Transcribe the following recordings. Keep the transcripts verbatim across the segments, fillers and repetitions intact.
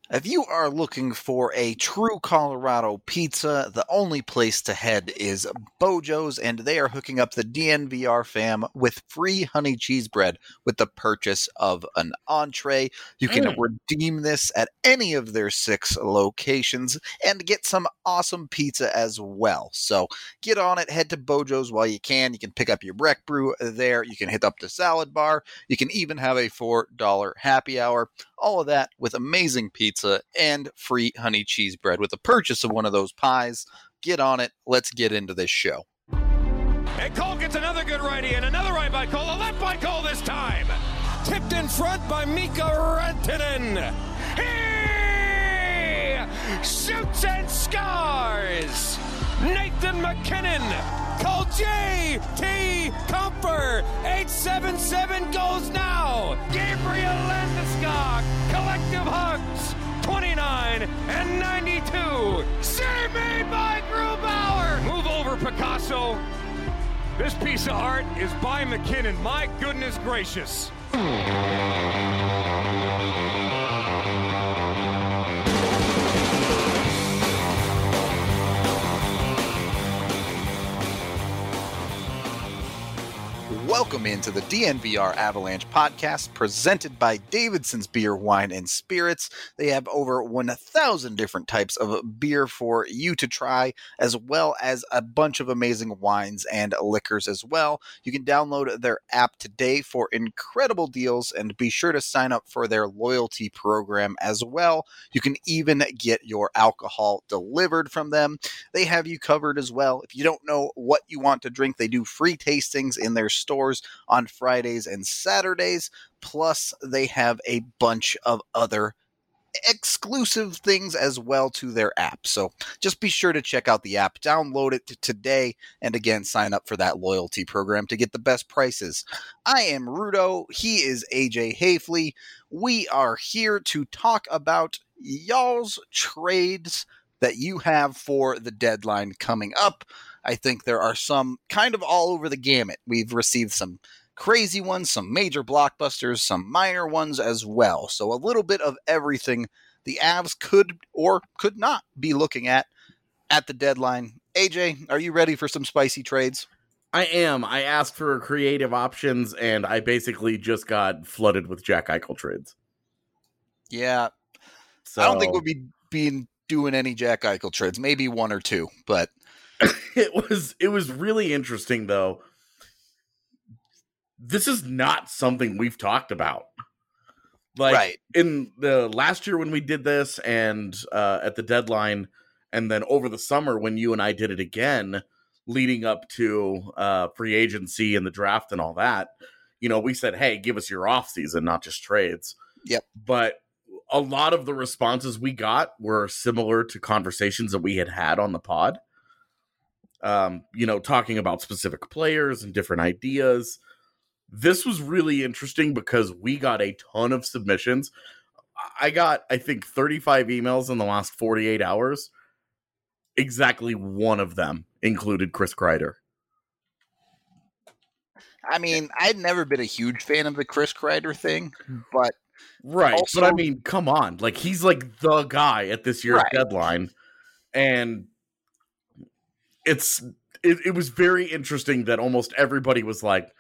If you are looking for a true Colorado pizza, the only place to head is Bojo's, and they are hooking up the D N V R fam with free honey cheese bread with the purchase of an entree. You can Mm. redeem this at any of their six locations and get some awesome pizza as well. So get on it, head to Bojo's while you can. You can pick up your Breck Brew there. You can hit up the salad bar. You can even have a four dollar happy hour. All of that with amazing pizza and free honey cheese bread with the purchase of one of those pies. Get on it. Let's get into this show. And Cole gets another good righty and another right by Cole. A left by Cole this time. Tipped in front by Mika Rantanen. He shoots and scores. Nathan McKinnon. Call J T Comfer. eight seven seven goes now. Gabriel Landeskog. Collective hugs. twenty-nine and ninety-two. Save made by Grubauer. Move over, Picasso. This piece of art is by McKinnon. My goodness gracious. Welcome into the D N V R Avalanche podcast presented by Davidson's Beer, Wine, and Spirits. They have over one thousand different types of beer for you to try, as well as a bunch of amazing wines and liquors as well. You can download their app today for incredible deals and be sure to sign up for their loyalty program as well. You can even get your alcohol delivered from them. They have you covered as well. If you don't know what you want to drink, they do free tastings in their stores on Fridays and Saturdays. Plus, they have a bunch of other exclusive things as well to their app. So just be sure to check out the app, download it today, and again, sign up for that loyalty program to get the best prices. I am Rudo. He is A J Hafley. We are here to talk about y'all's trades that you have for the deadline coming up. I think there are some kind of all over the gamut. We've received some crazy ones, some major blockbusters, some minor ones as well. So a little bit of everything the Avs could or could not be looking at at the deadline. A J, are you ready for some spicy trades? I am. I asked for creative options, and I basically just got flooded with Jack Eichel trades. Yeah. So I don't think we'll be being doing any Jack Eichel trades. Maybe one or two, but it was it was really interesting, though. This is not something we've talked about. Like, right. in the last year when we did this, and uh, at the deadline, and then over the summer when you and I did it again, leading up to uh, free agency and the draft and all that, you know, we said, hey, give us your off season, not just trades. Yep. But a lot of the responses we got were similar to conversations that we had had on the pod. Um, you know, talking about specific players and different ideas. This was really interesting because we got a ton of submissions. I got, I think, thirty-five emails in the last forty-eight hours. Exactly one of them included Chris Kreider. I mean, I'd never been a huge fan of the Chris Kreider thing, but right. also, but I mean, come on. Like, he's like the guy at this year's right. deadline. And it's it, it was very interesting that almost everybody was like,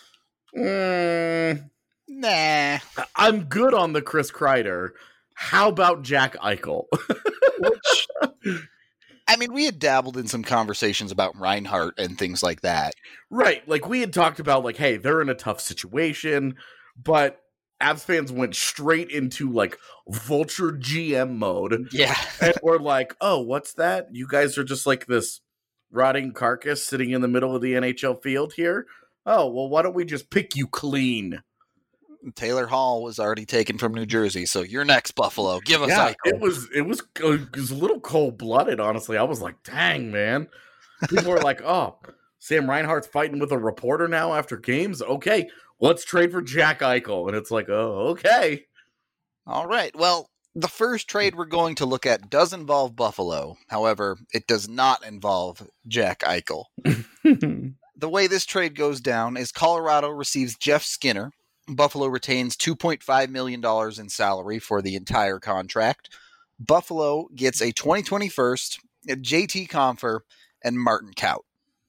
mm, nah, I'm good on the Chris Kreider. How about Jack Eichel? Which, I mean, we had dabbled in some conversations about Reinhart and things like that. Right. Like, we had talked about, like, hey, they're in a tough situation, but Avs fans went straight into, like, vulture G M mode. Yeah. And we're like, oh, what's that? You guys are just like this rotting carcass sitting in the middle of the N H L field here? Oh, well, why don't we just pick you clean? Taylor Hall was already taken from New Jersey, so you're next, Buffalo. Give us yeah, Eichel. It was, it was it was a little cold-blooded, honestly. I was like, dang, man. People were like, oh, Sam Reinhart's fighting with a reporter now after games? Okay, let's trade for Jack Eichel. And it's like, oh, okay. All right. Well, the first trade we're going to look at does involve Buffalo. However, it does not involve Jack Eichel. The way this trade goes down is Colorado receives Jeff Skinner Buffalo retains two point five million dollars in salary for the entire contract. Buffalo gets a twenty twenty first, J T Compher, and Martin Kaut.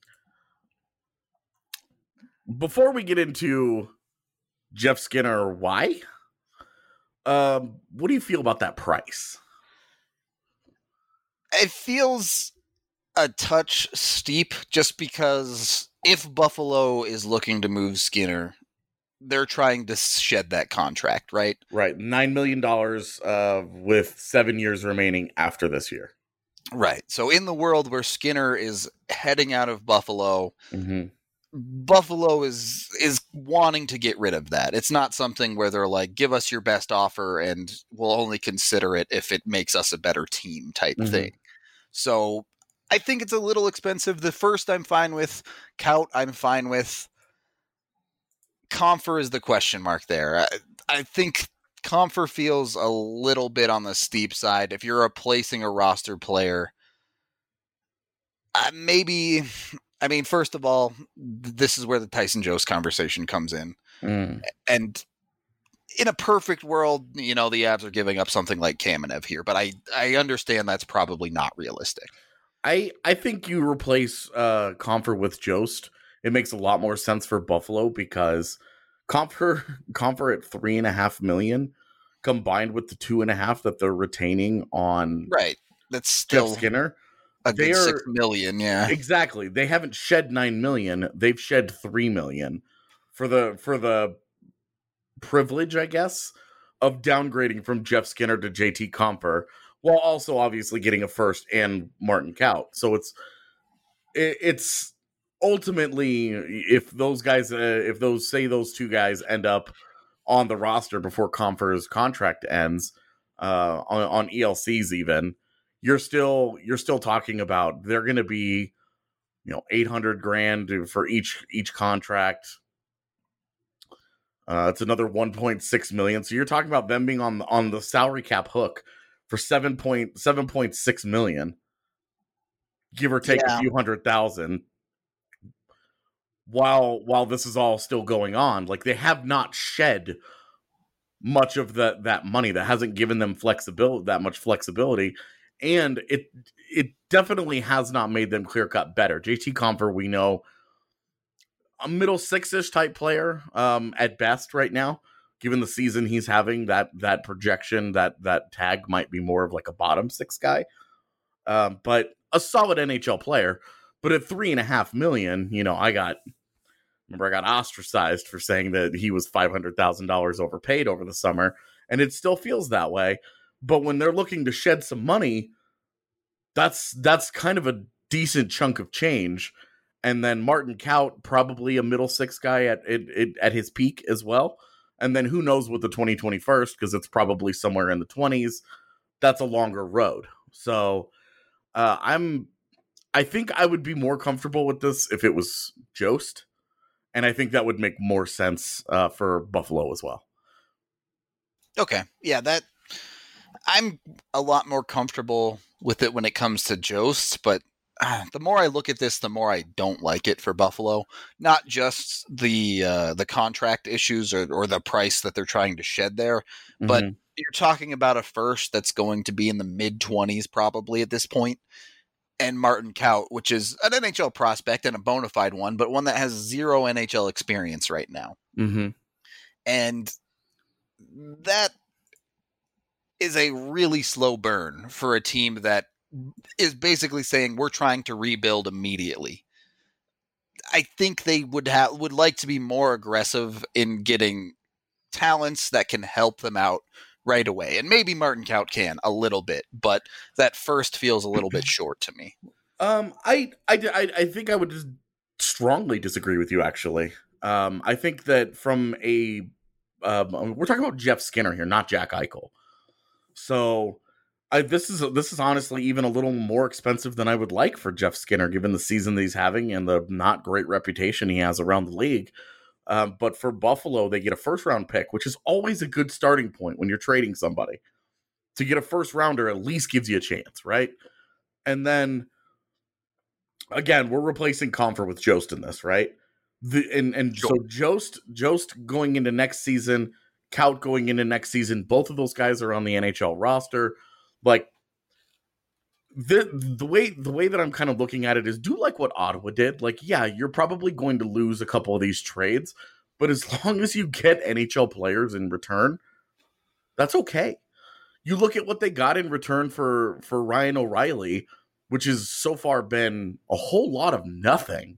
Before we get into Jeff Skinner, why? Um, what do you feel about that price? It feels a touch steep just because if Buffalo is looking to move Skinner, they're trying to shed that contract, right? Right. nine million dollars uh, with seven years remaining after this year. Right. So in the world where Skinner is heading out of Buffalo, mm-hmm. Buffalo is is wanting to get rid of that. It's not something where they're like, give us your best offer and we'll only consider it if it makes us a better team type mm-hmm. thing. So I think it's a little expensive. The first I'm fine with. Kaut I'm fine with. Compher is the question mark there. I, I think Compher feels a little bit on the steep side. If you're replacing a roster player, uh, maybe... I mean, first of all, this is where the Tyson Jost conversation comes in. Mm. And in a perfect world, you know, the Avs are giving up something like Kamenev here, but I, I understand that's probably not realistic. I, I think you replace uh, Compher with Jost. It makes a lot more sense for Buffalo because Compher, Compher at three and a half million combined with the two and a half that they're retaining on right. That's still Jeff Skinner. A good They're, six million, yeah. Exactly. They haven't shed nine million. They've shed three million for the for the privilege, I guess, of downgrading from Jeff Skinner to J T Compher, while also obviously getting a first and Martin Kaut. So it's it, it's ultimately if those guys, uh, if those say those two guys end up on the roster before Compher's contract ends, uh, on, on E L Cs even. You're still you're still talking about they're going to be, you know, eight hundred grand for each each contract. Uh, it's another one point six million. So you're talking about them being on on the salary cap hook for seven point seven point six million, give or take yeah. a few hundred thousand. While while this is all still going on, like they have not shed much of that that money. That hasn't given them flexibility that much flexibility. And it it definitely has not made them clear-cut better. J T Compher, we know, a middle six-ish type player um, at best right now. Given the season he's having, that that projection, that that tag might be more of like a bottom six guy. Um, but a solid N H L player. But at three and a half million, you know, I got remember I got ostracized for saying that he was five hundred thousand dollars overpaid over the summer, and it still feels that way. But when they're looking to shed some money, that's that's kind of a decent chunk of change. And then Martin Kaut, probably a middle six guy at at, at his peak as well. And then who knows with the twenty twenty-first, because it's probably somewhere in the twenties. That's a longer road. So uh, I'm, I think I would be more comfortable with this if it was Jost. And I think that would make more sense uh, for Buffalo as well. Okay. Yeah, that... I'm a lot more comfortable with it when it comes to Jost, but uh, the more I look at this, the more I don't like it for Buffalo. Not just the uh, the contract issues or, or the price that they're trying to shed there, mm-hmm. but you're talking about a first that's going to be in the mid-twenties probably at this point, and Martin Kaut, which is an N H L prospect and a bona fide one, but one that has zero N H L experience right now. Mm-hmm. And that is a really slow burn for a team that is basically saying we're trying to rebuild immediately. I think they would have would like to be more aggressive in getting talents that can help them out right away. And maybe Martin Kaut can a little bit, but that first feels a little bit short to me. Um, I, I, I, I think I would just strongly disagree with you, actually. Um, I think that from a, um, we're talking about Jeff Skinner here, not Jack Eichel. So I, this is this is honestly even a little more expensive than I would like for Jeff Skinner, given the season that he's having and the not great reputation he has around the league. Um, but for Buffalo, they get a first round pick, which is always a good starting point when you're trading somebody. To get a first rounder at least gives you a chance, right? And then again, we're replacing Compher with Jost in this, right? The and and Sure. so Jost Jost going into next season, Kaut going into next season. Both of those guys are on the N H L roster. Like the the way the way that I'm kind of looking at it is do like what Ottawa did. Like, yeah, you're probably going to lose a couple of these trades, but as long as you get N H L players in return, that's okay. You look at what they got in return for for Ryan O'Reilly, which has so far been a whole lot of nothing.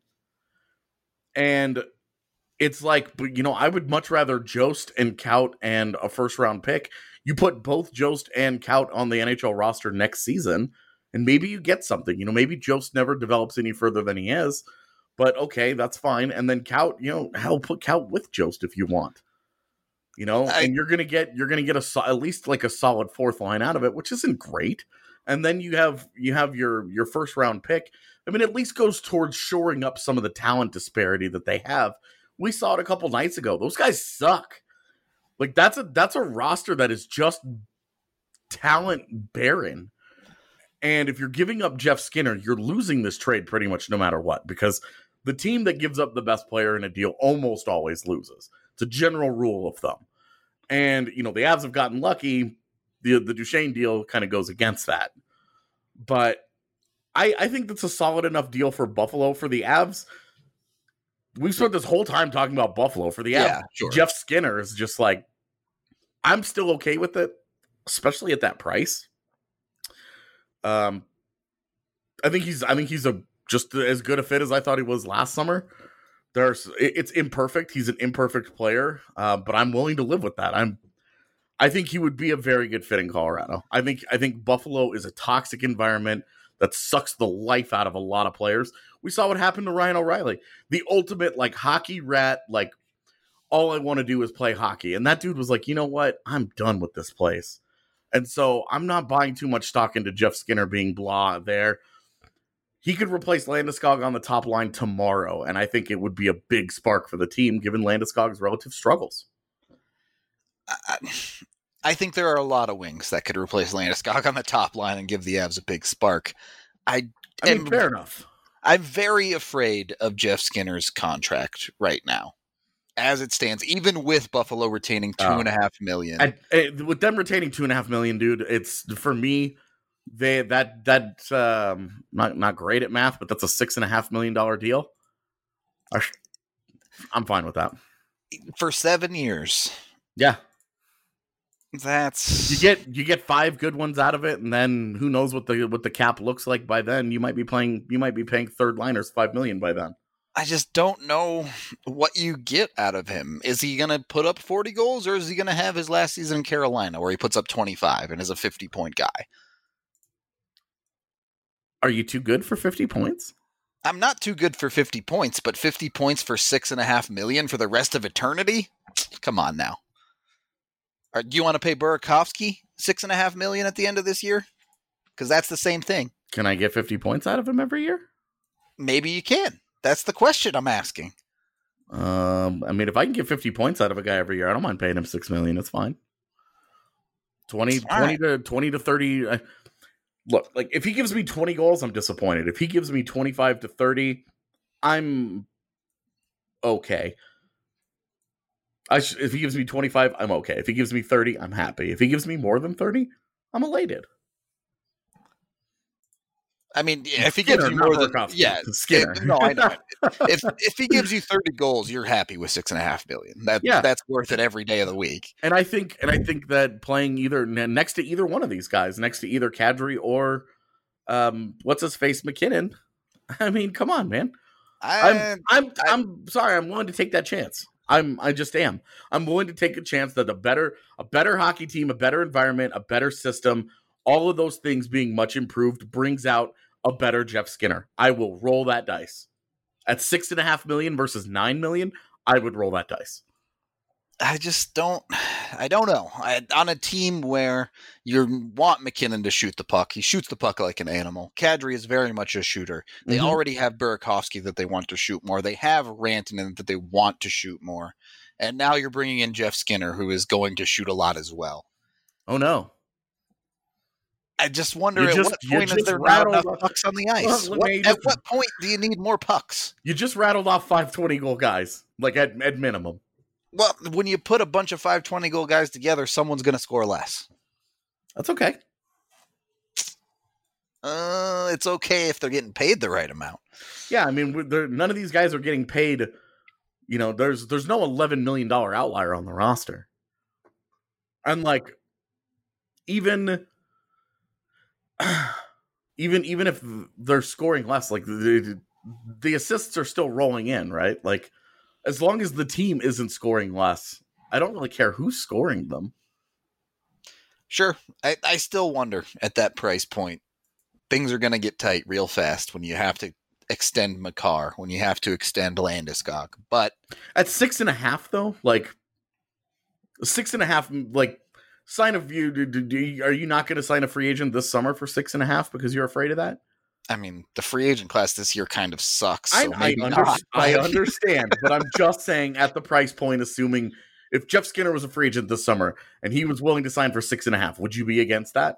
And it's like, but you know, I would much rather Jost and Kaut and a first round pick. You put both Jost and Kaut on the N H L roster next season, and maybe you get something. You know, maybe Jost never develops any further than he is, but okay, that's fine. And then Kaut, you know, hell, put Kaut with Jost if you want. You know, I, and you're gonna get you're gonna get a at least like a solid fourth line out of it, which isn't great. And then you have you have your your first round pick. I mean, at least goes towards shoring up some of the talent disparity that they have. We saw it a couple nights ago. Those guys suck. Like that's a that's a roster that is just talent barren. And if you're giving up Jeff Skinner, you're losing this trade pretty much no matter what, because the team that gives up the best player in a deal almost always loses. It's a general rule of thumb. And, you know, the Avs have gotten lucky. The the Duchesne deal kind of goes against that. But I, I think that's a solid enough deal for Buffalo. For the Avs, we've spent this whole time talking about Buffalo. For the Avs, yeah, sure. Jeff Skinner is just like, I'm still okay with it, especially at that price. Um, I think he's I think he's a just as good a fit as I thought he was last summer. There's it's imperfect. He's an imperfect player, uh, but I'm willing to live with that. I'm I think he would be a very good fit in Colorado. I think I think Buffalo is a toxic environment that sucks the life out of a lot of players. We saw what happened to Ryan O'Reilly, the ultimate like hockey rat. Like, all I want to do is play hockey, and that dude was like, you know what? I'm done with this place, and so I'm not buying too much stock into Jeff Skinner being blah there. He could replace Landeskog on the top line tomorrow, and I think it would be a big spark for the team, given Landeskog's relative struggles. I, I think there are a lot of wings that could replace Landeskog on the top line and give the Avs a big spark. I, I mean, fair enough. I'm very afraid of Jeff Skinner's contract right now, as it stands, even with Buffalo retaining two oh. and a half million. I, I, with them retaining two and a half million, dude, it's for me. They that that um not not great at math, but that's a six and a half million dollar deal. I, I'm fine with that for seven years. Yeah, that's you get you get five good ones out of it, and then who knows what the what the cap looks like by then. You might be playing you might be paying third liners five million by then. I just don't know what you get out of him. Is he going to put up forty goals, or is he going to have his last season in Carolina where he puts up twenty-five and is a fifty point guy? Are you too good for fifty points? I'm not too good for fifty points, but fifty points for six and a half million for the rest of eternity? Come on now. Or do you want to pay Burakovsky six and a half million at the end of this year? Because that's the same thing. Can I get fifty points out of him every year? Maybe you can. That's the question I'm asking. Um, I mean, if I can get fifty points out of a guy every year, I don't mind paying him six million. It's fine. twenty, twenty right. to twenty to thirty. Uh, Look, like if he gives me twenty goals, I'm disappointed. If he gives me twenty-five to thirty, I'm okay. I sh- if he gives me twenty-five, I'm okay. If he gives me thirty, I'm happy. If he gives me more than thirty, I'm elated. I mean, if he Skinner, gives you more than yeah, Skinner. It, no, I know. if if he gives you thirty goals, you're happy with six and a half billion. That yeah. that's worth it every day of the week. And I think, and I think that playing either next to either one of these guys, next to either Kadri or um, what's his face McKinnon. I mean, come on, man. I, I'm I'm I, I'm sorry. I'm willing to take that chance. I'm I just am. I'm willing to take a chance that a better a better hockey team, a better environment, a better system, all of those things being much improved brings out a better Jeff Skinner. I will roll that dice. At six and a half million versus nine million, I would roll that dice. I just don't, I don't know. I, on a team where you want McKinnon to shoot the puck, he shoots the puck like an animal. Kadri is very much a shooter. They mm-hmm. already have Burakovsky that they want to shoot more. They have Rantanen that they want to shoot more. And now you're bringing in Jeff Skinner, who is going to shoot a lot as well. Oh, no. I just wonder You at just- what you point is just there not rattled enough off- pucks on the ice? Well, What- man, you at just- what point do you need more pucks? You just rattled off five twenty goal guys, like at, at minimum. Well, when you put a bunch of five twenty goal guys together, someone's going to score less. That's okay. Uh, it's okay if they're getting paid the right amount. Yeah, I mean, we're- none of these guys are getting paid. You know, there's there's no eleven million dollars outlier on the roster. And like, even, even even if they're scoring less, like the, the assists are still rolling in, right? Like, as long as the team isn't scoring less, I don't really care who's scoring them. Sure, I, I still wonder at that price point. Things are going to get tight real fast when you have to extend Makar, when you have to extend Landeskog. But At six and a half, though, like six and a half, like sign of you. Do, do, do, are you not going to sign a free agent this summer for six and a half because you're afraid of that? I mean, the free agent class this year kind of sucks. I, So I, maybe under, not. I understand, but I'm just saying at the price point, assuming if Jeff Skinner was a free agent this summer and he was willing to sign for six and a half, would you be against that?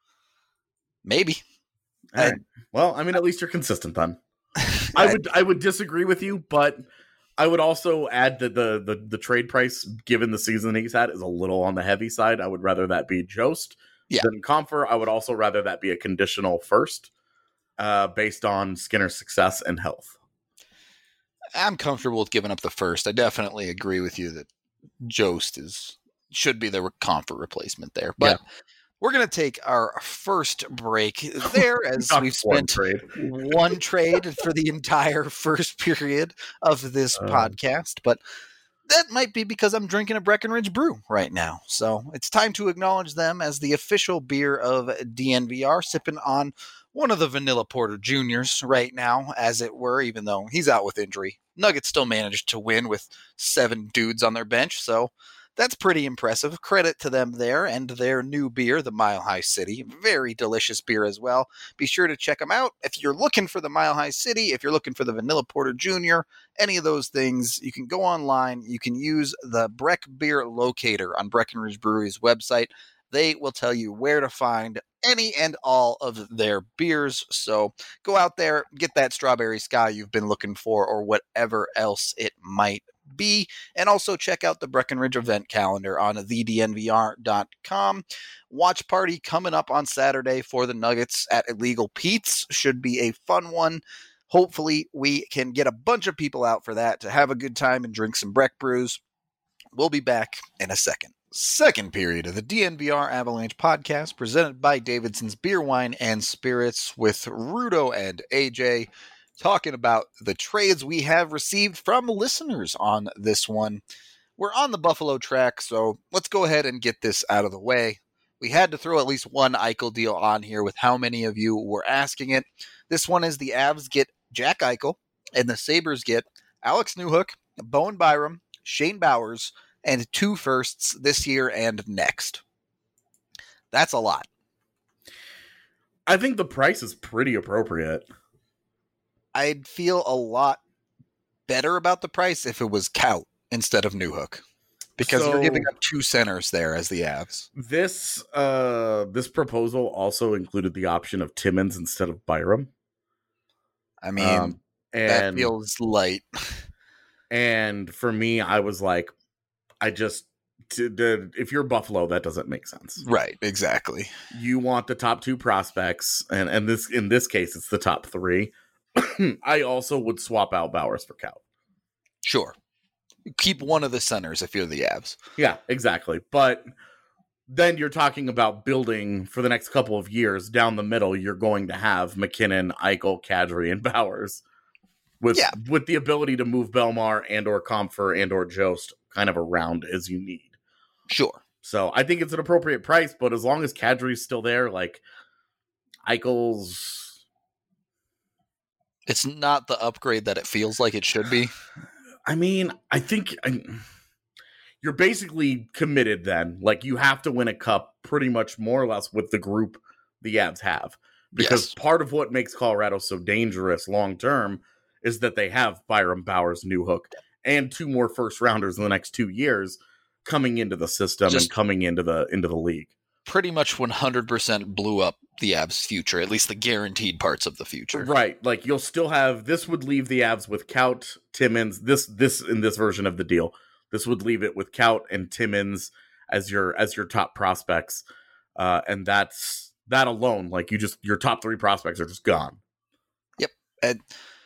Maybe. All right. Well, I mean, at least you're consistent then. I would I would disagree with you, but I would also add that the, the the trade price, given the season he's had, is a little on the heavy side. I would rather that be Jost Yeah. than Comfer. I would also rather that be a conditional first, uh, based on Skinner's success and health. I'm comfortable with giving up the first. I definitely agree with you that Jost is should be the comfort replacement there. But we're going to take our first break there as Talk we've one spent trade. one trade for the entire first period of this Um. podcast. But that might be because I'm drinking a Breckenridge brew right now. So it's time to acknowledge them as the official beer of D N V R, sipping on one of the Vanilla Porter Juniors right now, as it were, even though he's out with injury. Nuggets still managed to win with seven dudes on their bench, so that's pretty impressive. Credit to them there and their new beer, the Mile High City. Very delicious beer as well. Be sure to check them out. If you're looking for the Mile High City, if you're looking for the Vanilla Porter Junior, any of those things, you can go online. You can use the Breck Beer Locator on Breckenridge Brewery's website. They will tell you where to find any and all of their beers. So go out there, get that Strawberry Sky you've been looking for, or whatever else it might be. And also check out the Breckenridge event calendar on the d n v r dot com. Watch party coming up on Saturday for the Nuggets at Illegal Pete's. Should be a fun one. Hopefully we can get a bunch of people out for that to have a good time and drink some Breck brews. We'll be back in a second. Second period of the D N V R Avalanche podcast, presented by Davidson's Beer, Wine, and Spirits, with Rudo and A J, talking about the trades we have received from listeners on this one. We're on the Buffalo track, so let's go ahead and get this out of the way. We had to throw at least one Eichel deal on here with how many of you were asking it. This one is the Avs get Jack Eichel, and the Sabres get Alex Newhook, Bowen Byram, Shane Bowers, and two firsts this year and next. That's a lot. I think the price is pretty appropriate. I'd feel a lot better about the price if it was Kaut instead of Newhook, because So- you're giving up two centers there as the Avs. This uh this proposal also included the option of Timmins instead of Byram. I mean, Um, that and feels light. and for me, I was like, I just to, to, if you're Buffalo, that doesn't make sense. Right, exactly. You want the top two prospects, and and this in this case, it's the top three. I also would swap out Bowers for Kaut. Sure. Keep one of the centers if you're the Avs. Yeah, exactly. But then you're talking about building for the next couple of years down the middle. You're going to have McKinnon, Eichel, Kadri, and Bowers with Yeah. with the ability to move Belmar and or Comfer and or Jost kind of around as you need. Sure. So I think it's an appropriate price, but as long as Kadri's still there, like Eichel's, It's not the upgrade that it feels like it should be. I mean, I think I, you're basically committed then. Like, you have to win a cup pretty much more or less with the group the Avs have. Because Yes. part of what makes Colorado so dangerous long term is that they have Byram, Bowers, Newhook, and two more first rounders in the next two years coming into the system Just- and coming into the into the league. pretty much one hundred percent blew up the Avs' future, at least the guaranteed parts of the future. Right. Like, you'll still have, this would leave the Avs with Kaut, Timmins, this, this, in this version of the deal, this would leave it with Kaut and Timmins as your, as your top prospects. Uh, and that's, that alone, like, you just, your top three prospects are just gone. Yep. And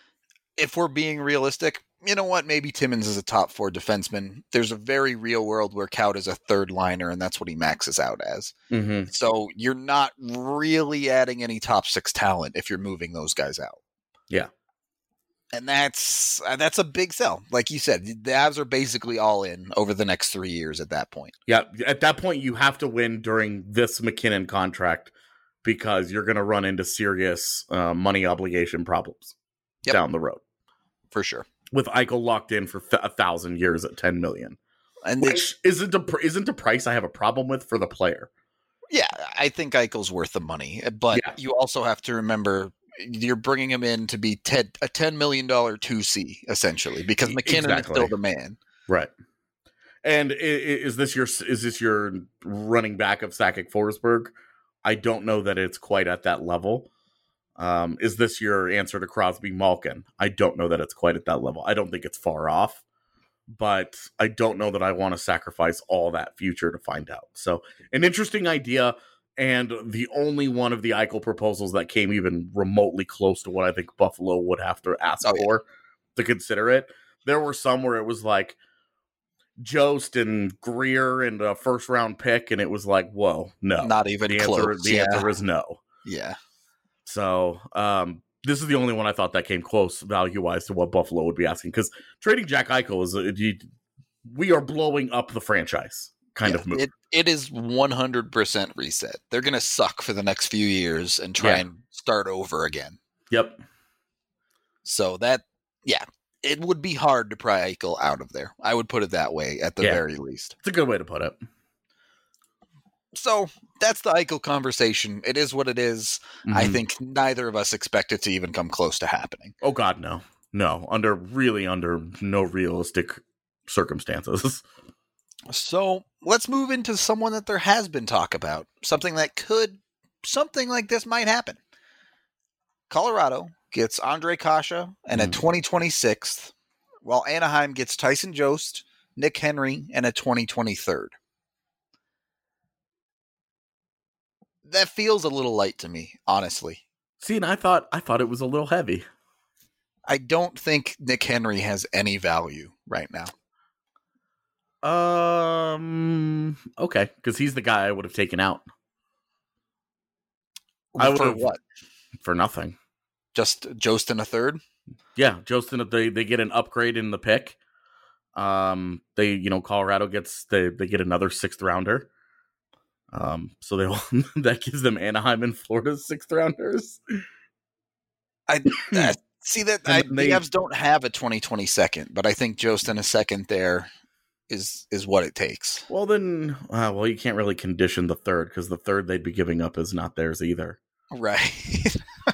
if we're being realistic, you know what? Maybe Timmins is a top four defenseman. There's a very real world where Kaut is a third liner, and that's what he maxes out as. Mm-hmm. So you're not really adding any top six talent if you're moving those guys out. Yeah. And that's uh, that's a big sell. Like you said, the Avs are basically all in over the next three years at that point. Yeah. At that point, you have to win during this MacKinnon contract because you're going to run into serious uh, money obligation problems yep. down the road. For sure. With Eichel locked in for th- a thousand years at ten million, and which they, isn't a isn't a price I have a problem with for the player. Yeah, I think Eichel's worth the money, but yeah. you also have to remember you're bringing him in to be ten, a ten million dollar two C essentially because MacKinnon exactly. is still the man, right? And is this your is this your running back of Sakic Forsberg? I don't know that it's quite at that level. Um, is this your answer to Crosby Malkin? I don't know that it's quite at that level. I don't think it's far off, but I don't know that I want to sacrifice all that future to find out. So an interesting idea, and the only one of the Eichel proposals that came even remotely close to what I think Buffalo would have to ask oh, for yeah. to consider it. There were some where it was like Jost and Greer and a first round pick, and it was like, whoa, no. Not even the close. Answer, the yeah. answer is no. Yeah. So um, this is the only one I thought that came close value-wise to what Buffalo would be asking. Because trading Jack Eichel is a, you, we are blowing up the franchise kind yeah, of move. It, it is one hundred percent reset. They're going to suck for the next few years and try yeah. and start over again. Yep. So that, yeah, it would be hard to pry Eichel out of there. I would put it that way at the yeah. very least. It's a good way to put it. So that's the Eichel conversation. It is what it is. Mm-hmm. I think neither of us expect it to even come close to happening. Oh, God, no. No, under really under no realistic circumstances. So let's move into someone that there has been talk about. Something that could, something like this might happen. Colorado gets Andre Kasha and mm-hmm. a twenty twenty-six, while Anaheim gets Tyson Jost, Nick Henry, and a twenty twenty-three. That feels a little light to me, honestly. See, and I thought I thought it was a little heavy. I don't think Nick Henry has any value right now. Um. Okay, because he's the guy I would have taken out. I for what? For nothing. Just Jost in a third. Yeah, Jost in a, they they get an upgrade in the pick. Um. They you know Colorado gets they they get another sixth rounder. Um, so they will, that gives them Anaheim and Florida's sixth rounders. I uh, see that I, they, the Avs don't have a twenty twenty second, but I think Jost in a second there is is what it takes. Well, then, uh, well, you can't really condition the third because the third they'd be giving up is not theirs either. Right.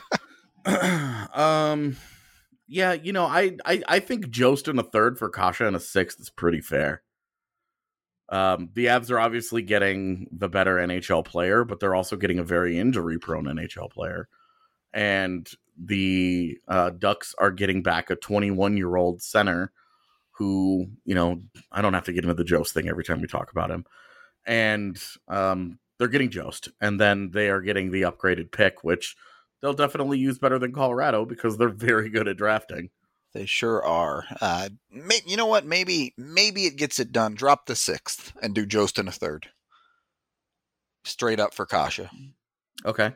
um. Yeah, you know, I, I I think Jost in a third for Kasha and a sixth is pretty fair. Um, the Avs are obviously getting the better N H L player, but they're also getting a very injury-prone N H L player. And the uh, Ducks are getting back a twenty-one-year-old center who, you know, I don't have to get into the Jost thing every time we talk about him. And um, they're getting Jost. And then they are getting the upgraded pick, which they'll definitely use better than Colorado because they're very good at drafting. They sure are. Uh, may, you know what? Maybe maybe it gets it done. Drop the sixth and do Jost in a third. Straight up for Kasha. Okay.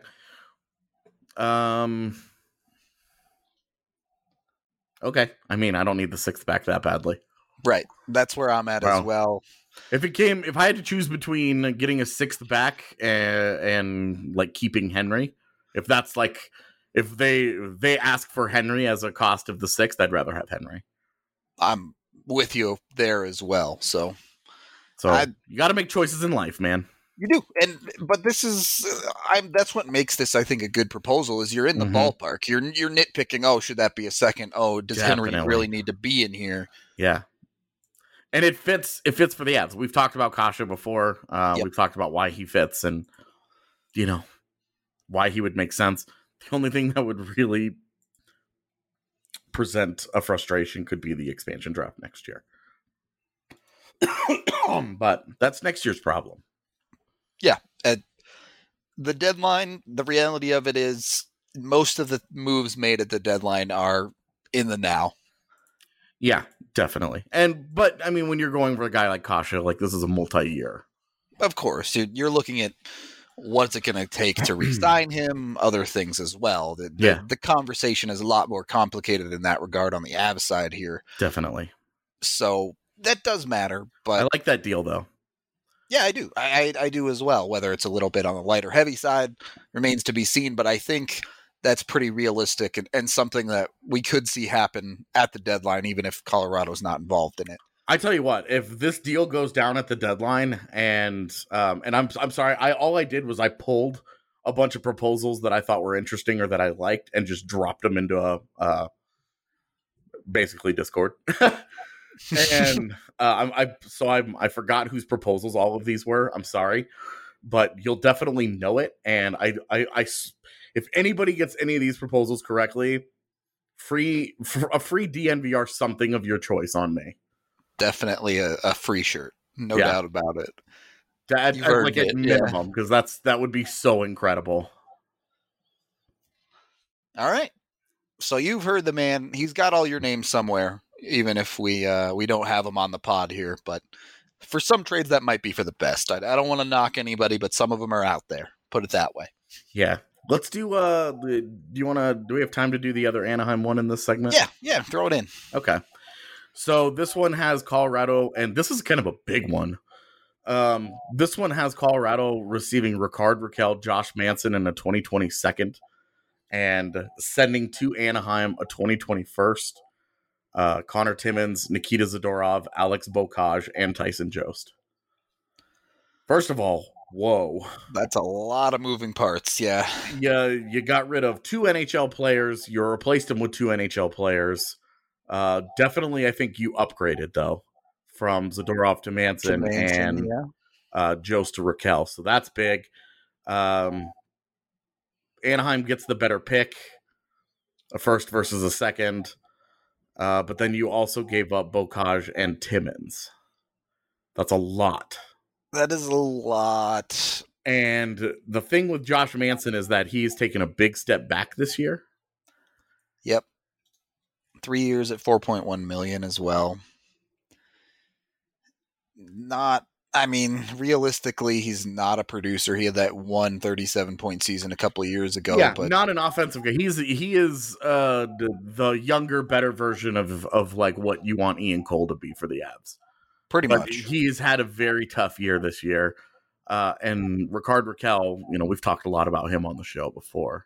Um. Okay. I mean, I don't need the sixth back that badly. Right. That's where I'm at wow. as well. If it came, if I had to choose between getting a sixth back and, and like keeping Henry, if that's like. If they they ask for Henry as a cost of the sixth, I'd rather have Henry. I'm with you there as well. So, so I, you got to make choices in life, man. You do, and but this is I'm. That's what makes this, I think, a good proposal. Is you're in the mm-hmm. ballpark. You're you're nitpicking. Oh, should that be a second? Oh, does Definitely. Henry really need to be in here? Yeah, and it fits. It fits for the Avs. We've talked about Kasha before. Uh, yep. We've talked about why he fits, and you know, why he would make sense. The only thing that would really present a frustration could be the expansion draft next year. But that's next year's problem. Yeah. At the deadline, the reality of it is most of the moves made at the deadline are in the now. Yeah, definitely. And but I mean, when you're going for a guy like Kasha, like this is a multi-year. Of course, dude, you're looking at what's it going to take to re-sign him, other things as well. The, the, Yeah. the conversation is a lot more complicated in that regard on the Avs side here. Definitely. So that does matter. But I like that deal, though. yeah, I do. I, I I do as well. Whether it's a little bit on the light or heavy side remains to be seen. But I think that's pretty realistic and, and something that we could see happen at the deadline, even if Colorado's not involved in it. I tell you what, if this deal goes down at the deadline, and um, and I'm I'm sorry, I all I did was I pulled a bunch of proposals that I thought were interesting or that I liked, and just dropped them into a uh, basically Discord. and uh, I, I so I I forgot whose proposals all of these were. I'm sorry, but you'll definitely know it. And I I, I if anybody gets any of these proposals correctly, free a free D N V R something of your choice on me. Definitely a, a free shirt, no Yeah. doubt about it. That You've I'd earned like at it, minimum, because that's that would be so incredible. All right. So you've heard the man. He's got all your names somewhere, even if we uh, we don't have him on the pod here. But for some trades, that might be for the best. I, I don't want to knock anybody, but some of them are out there. Put it that way. Yeah. Let's do uh the, do you want to do we have time to do the other Anaheim one in this segment? Yeah, yeah. Throw it in. Okay. So this one has Colorado, and this is kind of a big one. Um, this one has Colorado receiving Ricard Raquel, Josh Manson, and a twenty twenty second, and sending to Anaheim a twenty twenty first. Uh, Connor Timmins, Nikita Zadorov, Alex Bocage, and Tyson Jost. First of all, whoa. That's a lot of moving parts. Yeah. Yeah, you got rid of two N H L players. You replaced them with two N H L players. Uh, definitely, I think you upgraded, though, from Zadorov to Manson, To Manson, and yeah. uh, Jost to Raquel. So that's big. Um, Anaheim gets the better pick, a first versus a second. Uh, but then you also gave up Bocage and Timmins. That's a lot. That is a lot. And the thing with Josh Manson is that he's taken a big step back this year. Yep. Three years at four point one million as well. Not, I mean, realistically, he's not a producer. He had that one thirty-seven point season a couple of years ago. Yeah, but not an offensive guy. He's he is uh, the, the younger, better version of of like what you want Ian Cole to be for the Avs. pretty But much. he's had a very tough year this year. Uh, and Ricard Raquel, you know, we've talked a lot about him on the show before.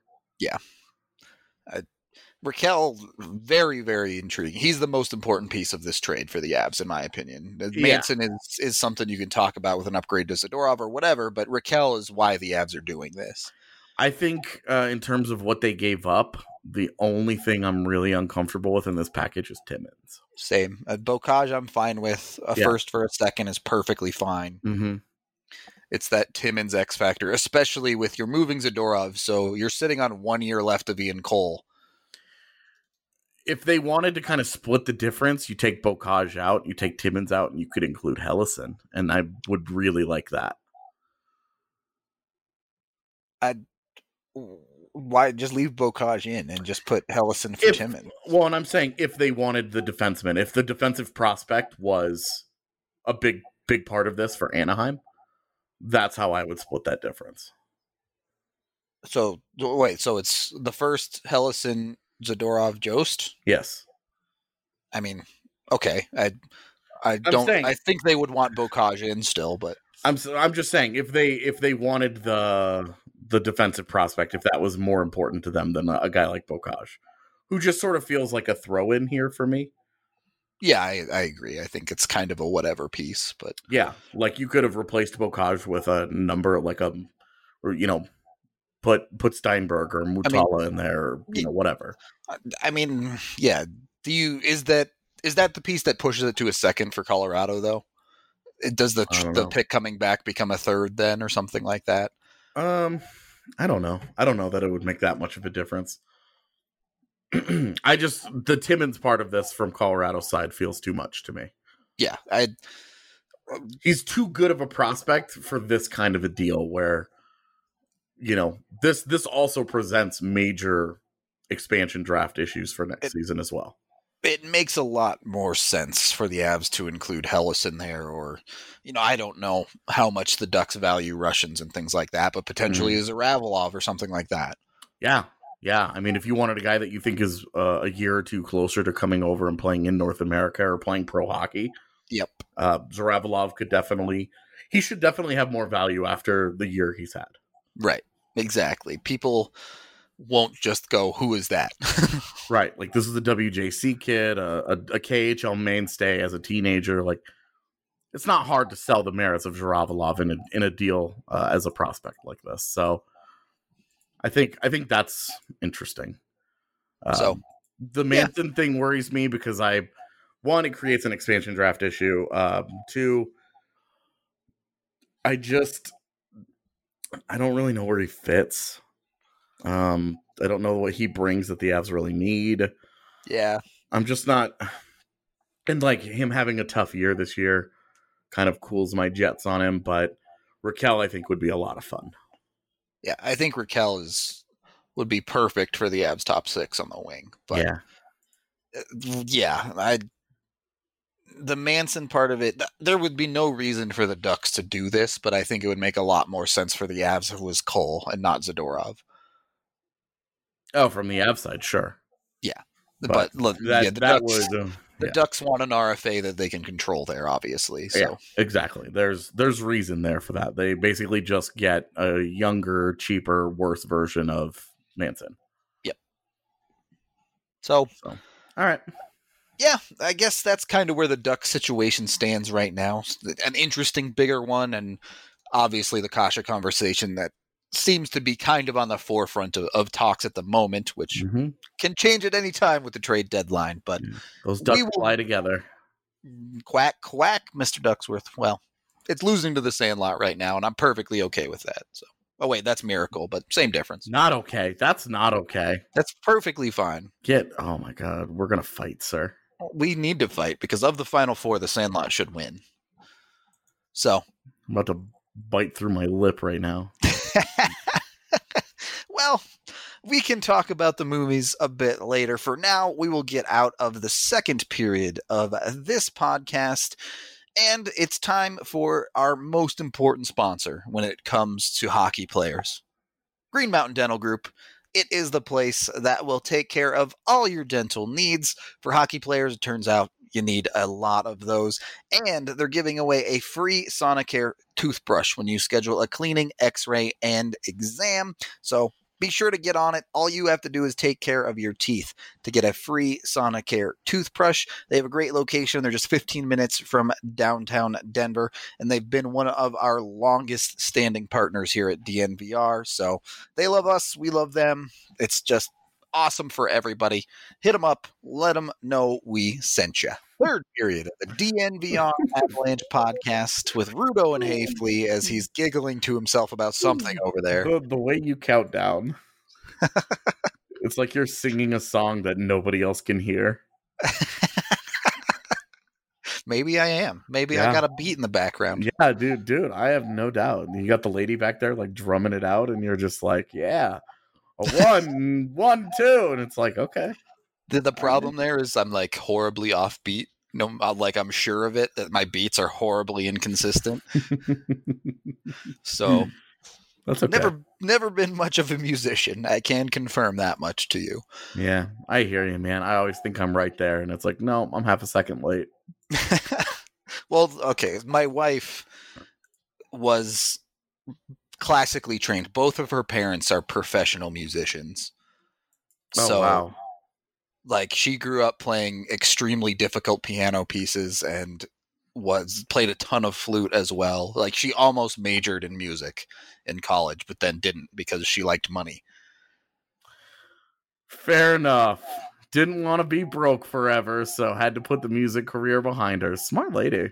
Raquel, very, very intriguing. He's the most important piece of this trade for the Avs, in my opinion. Yeah. Manson is, is something you can talk about with an upgrade to Zadorov or whatever, but Raquel is why the Avs are doing this. I think uh, in terms of what they gave up, the only thing I'm really uncomfortable with in this package is Timmins. Same. At Bocage, I'm fine with. A Yeah. first for a second is perfectly fine. Mm-hmm. It's that Timmins X factor, especially with your moving Zadorov. So you're sitting on one year left of Ian Cole. If they wanted to kind of split the difference, you take Bocage out, you take Timmins out, and you could include Hellison. And I would really like that. Why just leave Bocage in and just put Hellison for If- Timmins? Well, and I'm saying if they wanted the defenseman, if the defensive prospect was a big, big part of this for Anaheim, that's how I would split that difference. So wait, so it's the first Hellison, Zadorov, Jost? Yes. I mean, okay. I I don't saying- I think they would want Bocage in still, but I'm s- I'm just saying if they if they wanted the the defensive prospect, if that was more important to them than a, a guy like Bocage, who just sort of feels like a throw in here for me. yeah, I, I agree. I think it's kind of a whatever piece, but Yeah, like you could have replaced Bocage with a number like a, or you know, put put Steinberg or Mutala in there, or, you know, whatever. I mean, yeah. Do you is that is that the piece that pushes it to a second for Colorado though? It, does the I don't the know. pick coming back become a third then, or something like that? Um, I don't know. I don't know that it would make that much of a difference. I just the Timmins part of this from Colorado side feels too much to me. Yeah, I. He's too good of a prospect for this kind of a deal where, you know, this this also presents major expansion draft issues for next it, season as well. It makes a lot more sense for the Avs to include Hellas in there, or, you know, I don't know how much the Ducks value Russians and things like that, but potentially mm. as a Ravelov or something like that. Yeah. Yeah, I mean, if you wanted a guy that you think is uh, a year or two closer to coming over and playing in North America or playing pro hockey, yep, uh, Zaravalov could definitely, he should definitely have more value after the year he's had. Right, exactly. People won't just go, who is that? Right, like this is a W J C kid, a, a, a K H L mainstay as a teenager. Like, it's not hard to sell the merits of Zaravalov in a, in a deal uh, as a prospect like this. So, I think I think that's interesting. Um, so the Manson yeah. thing worries me because I, one, it creates an expansion draft issue. Um, two, I just I don't really know where he fits. Um, I don't know what he brings that the Avs really need. Yeah, I'm just not. And like him having a tough year this year, kind of cools my jets on him. But Raquel, I think, would be a lot of fun. Yeah, I think Raquel is would be perfect for the Avs top six on the wing. But yeah, yeah, I the Manson part of it, there would be no reason for the Ducks to do this, but I think it would make a lot more sense for the Avs if it was Cole and not Zadorov. Oh, from the Avs side, sure. Yeah, but, but look, that, yeah, the that Ducks, would. Uh, The yeah. Ducks want an R F A that they can control there, obviously. So yeah, exactly. There's there's reason there for that. They basically just get a younger, cheaper, worse version of Manson. Yep. So, so all right. Yeah, I guess that's kind of where the Ducks situation stands right now. An interesting, bigger one, and obviously the Kasha conversation that seems to be kind of on the forefront of, of talks at the moment, which mm-hmm. can change at any time with the trade deadline. But yeah. Those Ducks will fly together. Quack, quack, Mister Ducksworth. Well, it's losing to the Sandlot right now, and I'm perfectly okay with that. So, oh wait, that's Miracle, but same difference. Not okay. That's not okay. That's perfectly fine. Get. Oh my God, we're gonna fight, sir. We need to fight because of the Final Four, the Sandlot should win. So I'm about to bite through my lip right now. Well, we can talk about the movies a bit later. For now, we will get out of the second period of this podcast, and it's time for our most important sponsor when it comes to hockey players. Green Mountain Dental Group. It is the place that will take care of all your dental needs. For hockey players, it turns out you need a lot of those. And they're giving away a free Sonicare toothbrush when you schedule a cleaning, x-ray, and exam. So be sure to get on it. All you have to do is take care of your teeth to get a free Sonicare toothbrush. They have a great location. They're just fifteen minutes from downtown Denver, and they've been one of our longest standing partners here at D N V R. So they love us. We love them. It's just awesome for everybody. Hit them up. Let them know we sent you. Third period of the D N V R Avalanche podcast with Rudo and Hafley as he's giggling to himself about something over there. The, the way you count down, it's like you're singing a song that nobody else can hear. Maybe I am. Maybe yeah. I got a beat in the background. Yeah, dude, dude, I have no doubt. You got the lady back there like drumming it out, and you're just like, yeah, a one, one, two, and it's like, okay. The, the problem there is I'm like horribly offbeat. No, like I'm sure of it that my beats are horribly inconsistent. So that's okay. Never, never been much of a musician. I can confirm that much to you. Yeah, I hear you, man. I always think I'm right there, and it's like, no, I'm half a second late. Well, okay. My wife was classically trained. Both of her parents are professional musicians. Oh, so, wow. Like, she grew up playing extremely difficult piano pieces and was played a ton of flute as well. Like, she almost majored in music in college, but then didn't because she liked money. Fair enough. Didn't want to be broke forever, so had to put the music career behind her. Smart lady.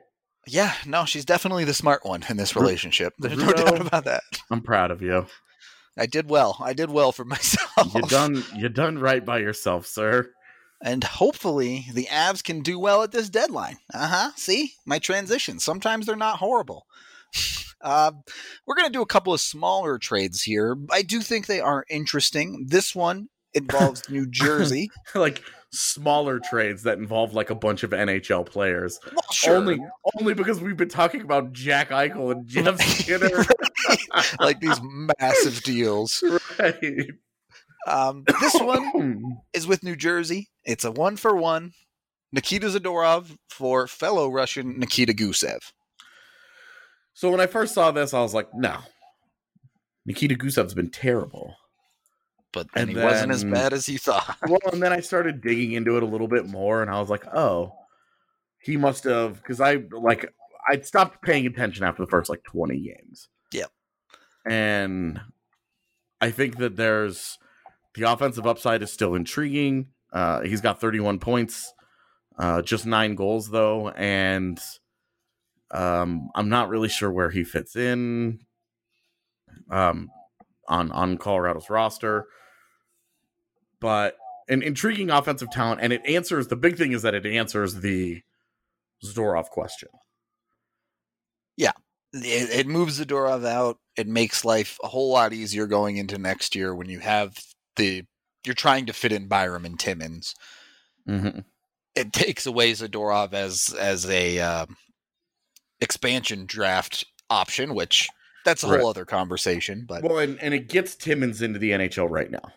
Yeah, no, she's definitely the smart one in this relationship. There's no Bruno, doubt about that. I'm proud of you. I did well. I did well for myself. You done you done right by yourself, sir. And hopefully the Avs can do well at this deadline. Uh-huh. See? My transitions. Sometimes they're not horrible. Uh, we're going to do a couple of smaller trades here. I do think they are interesting. This one involves New Jersey. Like smaller trades that involve like a bunch of N H L players. Well, sure. Only, only because we've been talking about Jack Eichel and Jeff Skinner. Like these massive deals. Right. Um, this one is with New Jersey. It's a one for one. Nikita Zadorov for fellow Russian Nikita Gusev. So when I first saw this, I was like, no. Nikita Gusev's been terrible. But then And he then- wasn't as bad as you thought. Well, and then I started digging into it a little bit more, and I was like, oh, he must have, because I, like, I'd stopped paying attention after the first, like, twenty games. Yep. And I think that there's, the offensive upside is still intriguing. Uh, he's got thirty-one points, uh, just nine goals, though, and um, I'm not really sure where he fits in um, on, on Colorado's roster. But an intriguing offensive talent, and it answers, the big thing is that it answers the Zadorov question. It, it moves Zadorov out. It makes life a whole lot easier going into next year when you have the, you're trying to fit in Byram and Timmins. Mm-hmm. It takes away Zadorov as, as a uh, expansion draft option, which that's a Right. whole other conversation. But Well, and, and it gets Timmins into the N H L right now.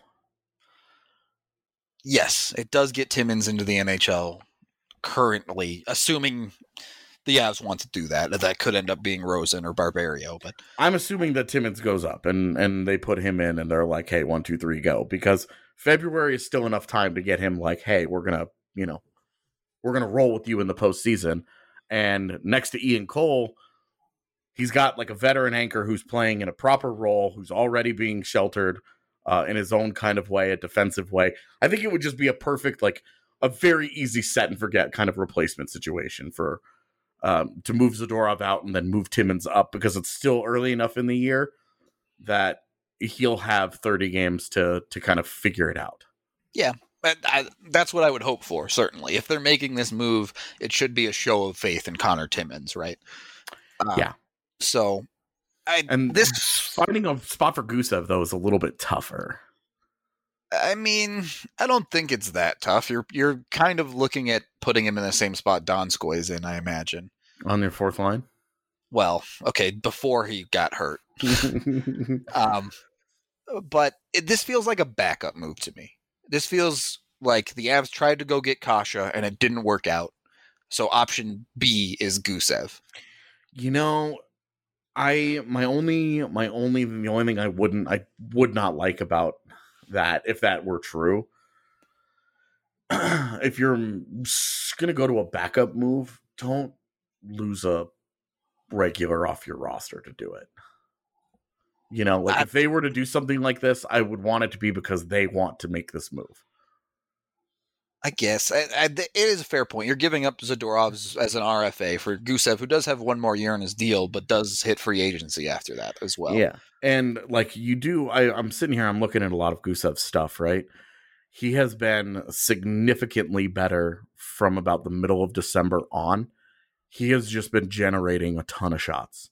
yes, it does get Timmins into the N H L currently, assuming the Avs want to do that. That could end up being Rosen or Barbario, but I'm assuming that Timmins goes up and, and they put him in and they're like, hey, one, two, three, go. Because February is still enough time to get him like, hey, we're going to, you know, we're going to roll with you in the postseason. And next to Ian Cole, he's got like a veteran anchor who's playing in a proper role, who's already being sheltered uh, in his own kind of way, a defensive way. I think it would just be a perfect, like a very easy set and forget kind of replacement situation for um, to move Zadorov out and then move Timmins up, because it's still early enough in the year that he'll have thirty games to to kind of figure it out. But I, that's what I would hope for, certainly. If they're making this move, it should be a show of faith in Connor Timmins, right? Uh, Yeah. So, I, And this, finding a spot for Gusev, though, is a little bit tougher. I mean, I don't think it's that tough. You're you're kind of looking at putting him in the same spot Donskoy is in, I imagine. On your fourth line? Well, okay, before he got hurt. Um, but it, this feels like a backup move to me. This feels like the Avs tried to go get Kasha and it didn't work out. So option B is Gusev. You know, I my only my only the only thing I wouldn't I would not like about that, if that were true, if you're gonna go to a backup move, don't lose a regular off your roster to do it. You know, like I- if they were to do something like this, I would want it to be because they want to make this move. I guess I, I, it is a fair point. You're giving up Zadorov as, as an R F A for Gusev, who does have one more year on his deal, but does hit free agency after that as well. Yeah. And like you do, I, I'm sitting here, I'm looking at a lot of Gusev's stuff, right? He has been significantly better from about the middle of December on. He has just been generating a ton of shots.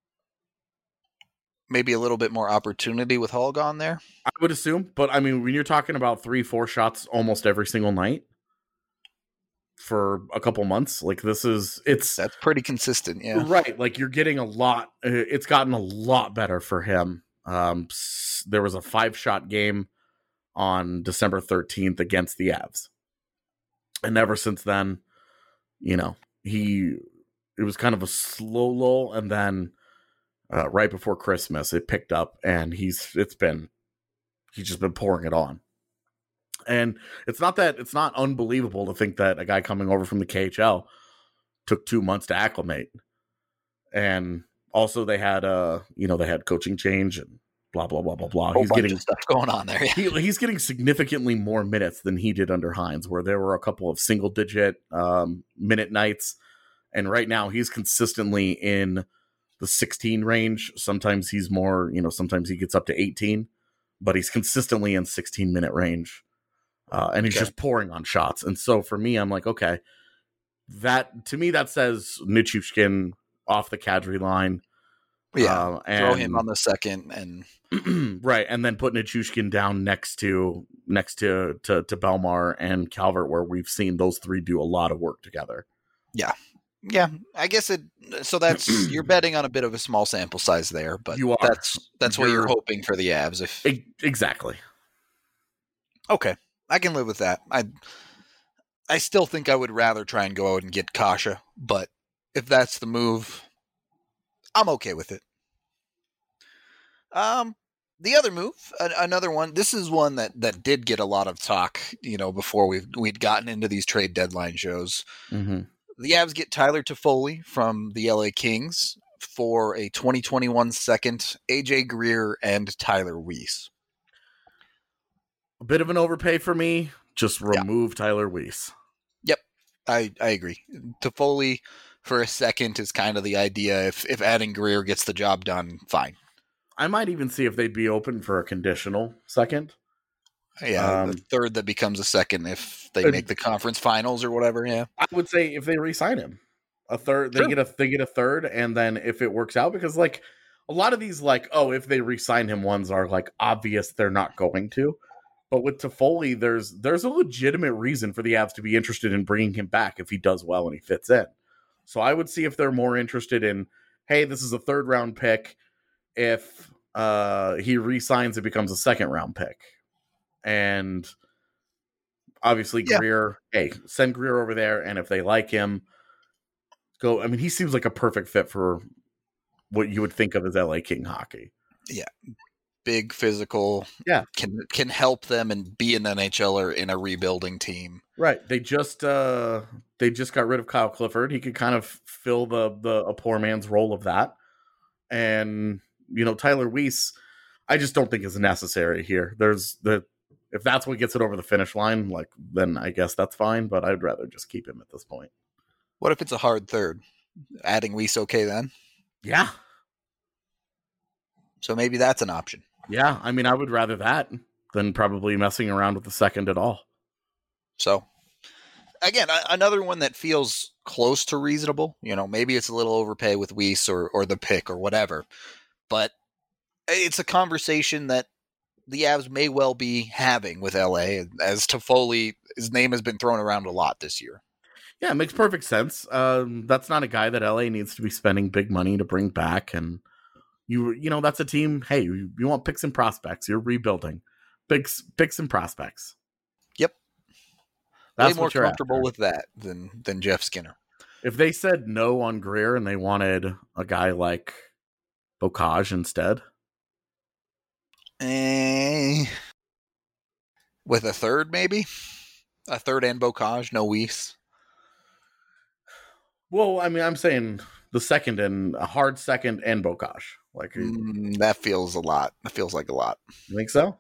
Maybe a little bit more opportunity with Hull gone there. I would assume, but I mean, when you're talking about three, four shots almost every single night for a couple months, like this is, it's That's pretty consistent, yeah. right. Like you're getting a lot, uh, it's gotten a lot better for him. Um, s- there was a five shot game on December thirteenth against the Avs. And ever since then, you know, he, it was kind of a slow lull, and then uh, right before Christmas, it picked up, and he's, it's been, he's just been pouring it on. And it's not that, it's not unbelievable to think that a guy coming over from the K H L took two months to acclimate. And also they had, uh, you know, they had coaching change and blah, blah, blah, blah, blah. Whole He's bunch getting of stuff going on there. Yeah. he, he's getting significantly more minutes than he did under Hines, where there were a couple of single digit um, minute nights. And right now he's consistently in the sixteen range. Sometimes he's more, you know, sometimes he gets up to eighteen, but he's consistently in sixteen minute range. Uh, and he's okay. just pouring on shots. And so for me, I'm like, okay, that to me, that says Nichushkin off the Kadri line. Yeah. Uh, and, throw him on the second and right. And then put Nichushkin down next to, next to, to, to Belmar and Calvert, where we've seen those three do a lot of work together. Yeah. Yeah. I guess it, so that's, you're betting on a bit of a small sample size there, but you are. that's, that's you're, what you're hoping for the Avs. If exactly. Okay. I can live with that. I I still think I would rather try and go out and get Kasha, but if that's the move, I'm okay with it. Um, the other move, a- another one. This is one that, that did get a lot of talk, you know, before we we'd gotten into these trade deadline shows. Mm-hmm. The Avs get Tyler Toffoli from the L A Kings for a twenty twenty-one second, A J Greer and Tyler Weiss. A bit of an overpay for me. Just remove yeah. Tyler Weiss. Yep, I, I agree. Toffoli for a second is kind of the idea. If if adding Greer gets the job done, fine. I might even see if they'd be open for a conditional second. Yeah, um, the third that becomes a second if they make the conference finals or whatever. Yeah, I would say if they re-sign him, a third, they sure. get a they get a third, and then if it works out, because like a lot of these, like oh, if they re-sign him, ones are like obvious they're not going to. But with Toffoli, there's there's a legitimate reason for the Avs to be interested in bringing him back if he does well and he fits in. So I would see if they're more interested in, hey, this is a third round pick. If uh, he re-signs, it becomes a second round pick. And obviously yeah. Greer, hey, send Greer over there. And if they like him, go. I mean, he seems like a perfect fit for what you would think of as L A King hockey. Yeah. Big, physical, yeah, can can help them and be an NHLer in a rebuilding team. Right. They just uh, they just got rid of Kyle Clifford. He could kind of fill the the a poor man's role of that. And you know, Tyler Weiss, I just don't think is necessary here. There's the if that's what gets it over the finish line, like then I guess that's fine. But I'd rather just keep him at this point. What if it's a hard third? Adding Weiss okay then? Yeah. So maybe that's an option. Yeah, I mean, I would rather that than probably messing around with the second at all. So, again, another one that feels close to reasonable. You know, maybe it's a little overpay with Weiss or, or the pick or whatever. But it's a conversation that the Avs may well be having with L A, as Toffoli, his name has been thrown around a lot this year. Yeah, it makes perfect sense. Um, that's not a guy that L A needs to be spending big money to bring back, and You you know, that's a team, hey, you, you want picks and prospects. You're rebuilding. Picks, picks and prospects. Yep. That's way more comfortable with that than, than Jeff Skinner. If they said no on Greer and they wanted a guy like Bocage instead. Eh, with a third, maybe? A third and Bocage, no Weiss. Well, I mean, I'm saying the second and a hard second and Bocage. Like mm, that feels a lot. That feels like a lot. You think so?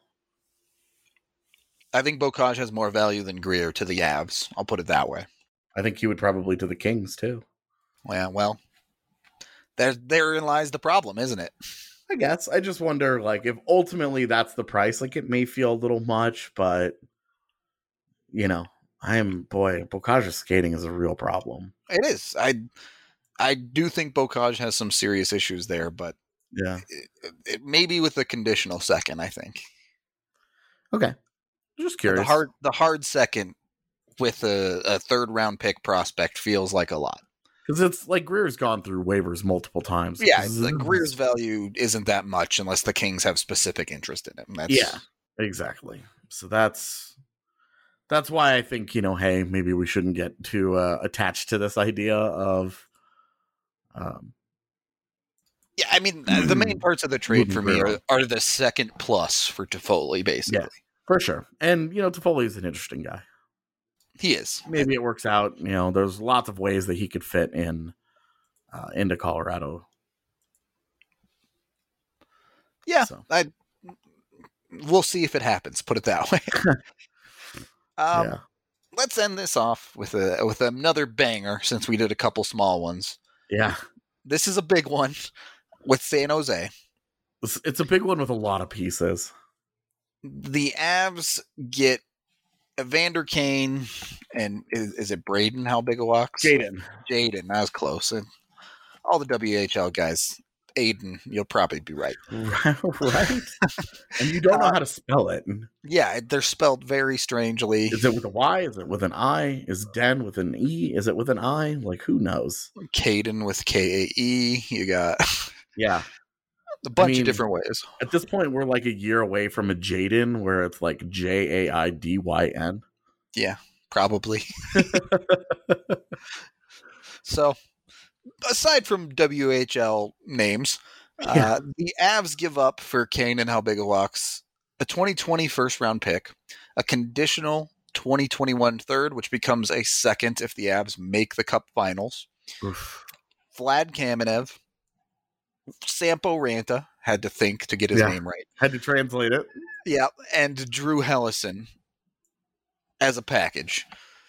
I think Bocage has more value than Greer to the Avs. I'll put it that way. I think he would probably to the Kings too. Yeah, well, there therein lies the problem, isn't it? I guess. I just wonder, like, if ultimately that's the price. Like, it may feel a little much, but you know, I am boy. Bocage's skating is a real problem. It is. I I do think Bocage has some serious issues there, but. Yeah, it, it, maybe with a conditional second, I think. Okay, just curious. The hard, the hard second with a, a third round pick prospect feels like a lot because it's like Greer's gone through waivers multiple times. Yeah, like Greer's value isn't that much unless the Kings have specific interest in him. That's... Yeah, exactly. So that's that's why I think, you know, hey, maybe we shouldn't get too uh, attached to this idea of. Um, Yeah, I mean, the main parts of the trade for me are, are the second plus for Toffoli, basically. Yeah, for sure. And, you know, Toffoli is an interesting guy. He is. Maybe it works out. You know, there's lots of ways that he could fit in uh, into Colorado. Yeah, so. I we'll see if it happens, put it that way. um, yeah. let's end this off with a with another banger since we did a couple small ones. Yeah. This is a big one with San Jose. It's, it's a big one with a lot of pieces. The Avs get Evander Kane and is, is it Braden Halbigawaks? Jaden. Jaden, that was close. And all the W H L guys, Aiden, you'll probably be right. Right? And you don't know Uh, how to spell it. Yeah, they're spelled very strangely. Is it with a Y? Is it with an I? Is Den with an E? Is it with an I? Like, who knows? Caden with K A E. You got Yeah. a bunch I mean, of different ways. At this point, we're like a year away from a Jaden where it's like J A I D Y N. Yeah, probably. So, aside from W H L names, Yeah. uh, the Avs give up for Kane and Halbigawaks a twenty twenty first round pick, a conditional twenty twenty-one third, which becomes a second if the Avs make the Cup Finals. Oof. Vlad Kamenev, Sampo Ranta had to think to get his Yeah. name right. Had to translate it. Yeah, and Drew Hellison as a package.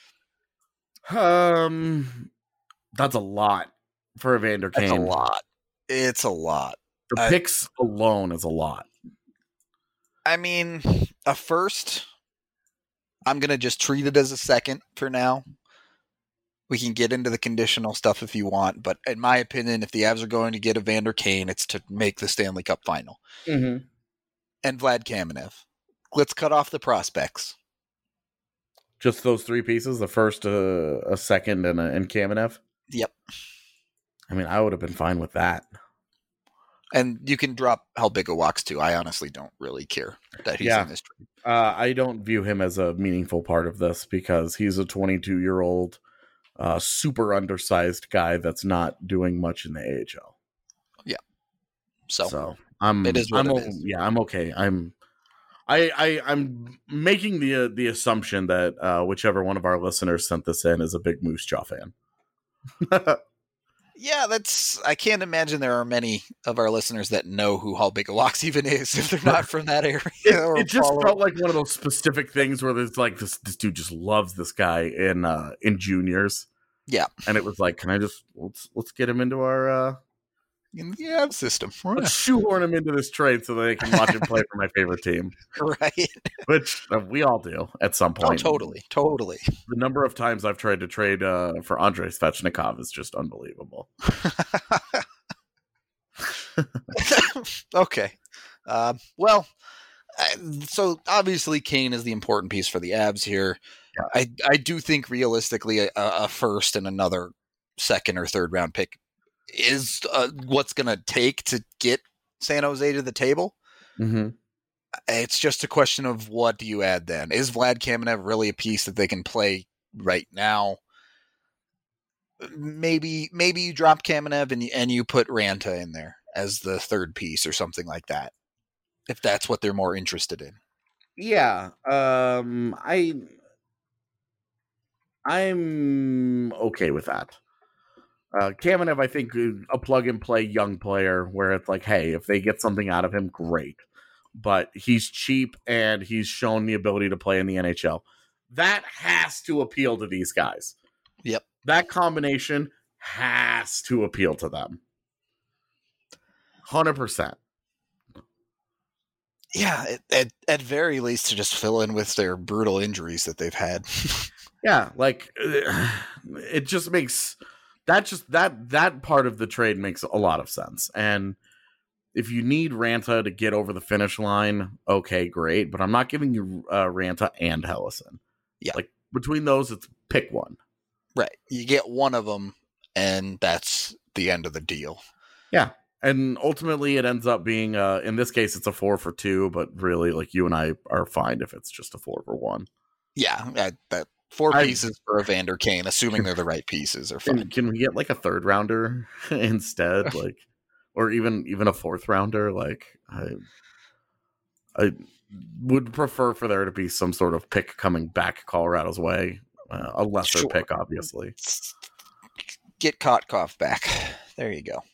Um, that's a lot for Evander Kane. That's a lot. It's a lot. The Uh, picks alone is a lot. I mean, a first, I'm going to just treat it as a second for now. We can get into the conditional stuff if you want, but in my opinion, if the Avs are going to get Evander Kane, it's to make the Stanley Cup final. Mm-hmm. And Vlad Kamenev. Let's cut off the prospects. Just those three pieces, the first, uh, a second, and, a, and Kamenev? Yep. I mean, I would have been fine with that. And you can drop Halbigawaks too. I honestly don't really care that he's Yeah. in this trade. Uh, I don't view him as a meaningful part of this because he's a twenty-two-year-old, uh, super undersized guy that's not doing much in the A H L. So, So I'm, it is what I'm it o- is. yeah, I'm okay. I'm, I, I, I'm making the uh, the assumption that uh, whichever one of our listeners sent this in is a big Moose Jaw fan. yeah, that's. I can't imagine there are many of our listeners that know who Halbigawaks even is if they're not from that area. It, or it just follow- felt like one of those specific things where there's like this this dude just loves this guy in uh, in juniors. Yeah. And it was like, can I just let's let's get him into our uh, in the Avs system, let's shoehorn him into this trade so that I can watch him play for my favorite team, right? which uh, we all do at some Oh, point. totally, totally. The number of times I've tried to trade uh, for Andrei Svechnikov is just unbelievable. Okay. Um, well, I, so obviously Kane is the important piece for the Avs here. Yeah. I I do think realistically a, a first and another second or third round pick is uh, what's going to take to get San Jose to the table. Mm-hmm. It's just a question of what do you add then? Is Vlad Kamenev really a piece that they can play right now? Maybe maybe you drop Kamenev and, and you put Ranta in there as the third piece or something like that, if that's what they're more interested in. Yeah, um, I I'm okay with that. Uh, Kamenev, I think, is a plug-and-play young player where it's like, hey, if they get something out of him, great. But he's cheap, and he's shown the ability to play in the N H L. That has to appeal to these guys. Yep. That combination has to appeal to them. one hundred percent. Yeah, at, at, at very least to just fill in with their brutal injuries that they've had. Yeah, like, it just makes... That just that that part of the trade makes a lot of sense. And if you need Ranta to get over the finish line, okay, great. But I'm not giving you uh, Ranta and Hellison. Yeah. Like, between those, it's pick one. Right. You get one of them, and that's the end of the deal. Yeah. And ultimately, it ends up being, uh, in this case, it's a four for two. But really, like, you and I are fine if it's just a four for one. Yeah, that, that four I- pieces for Evander Kane, assuming they're the right pieces, are Can, fine. can we get, like, a third rounder instead? Like, or even even a fourth rounder? Like, I... I would prefer for there to be some sort of pick coming back Colorado's way. Uh, a lesser Sure. pick, obviously. Get Kotkov back. There you go.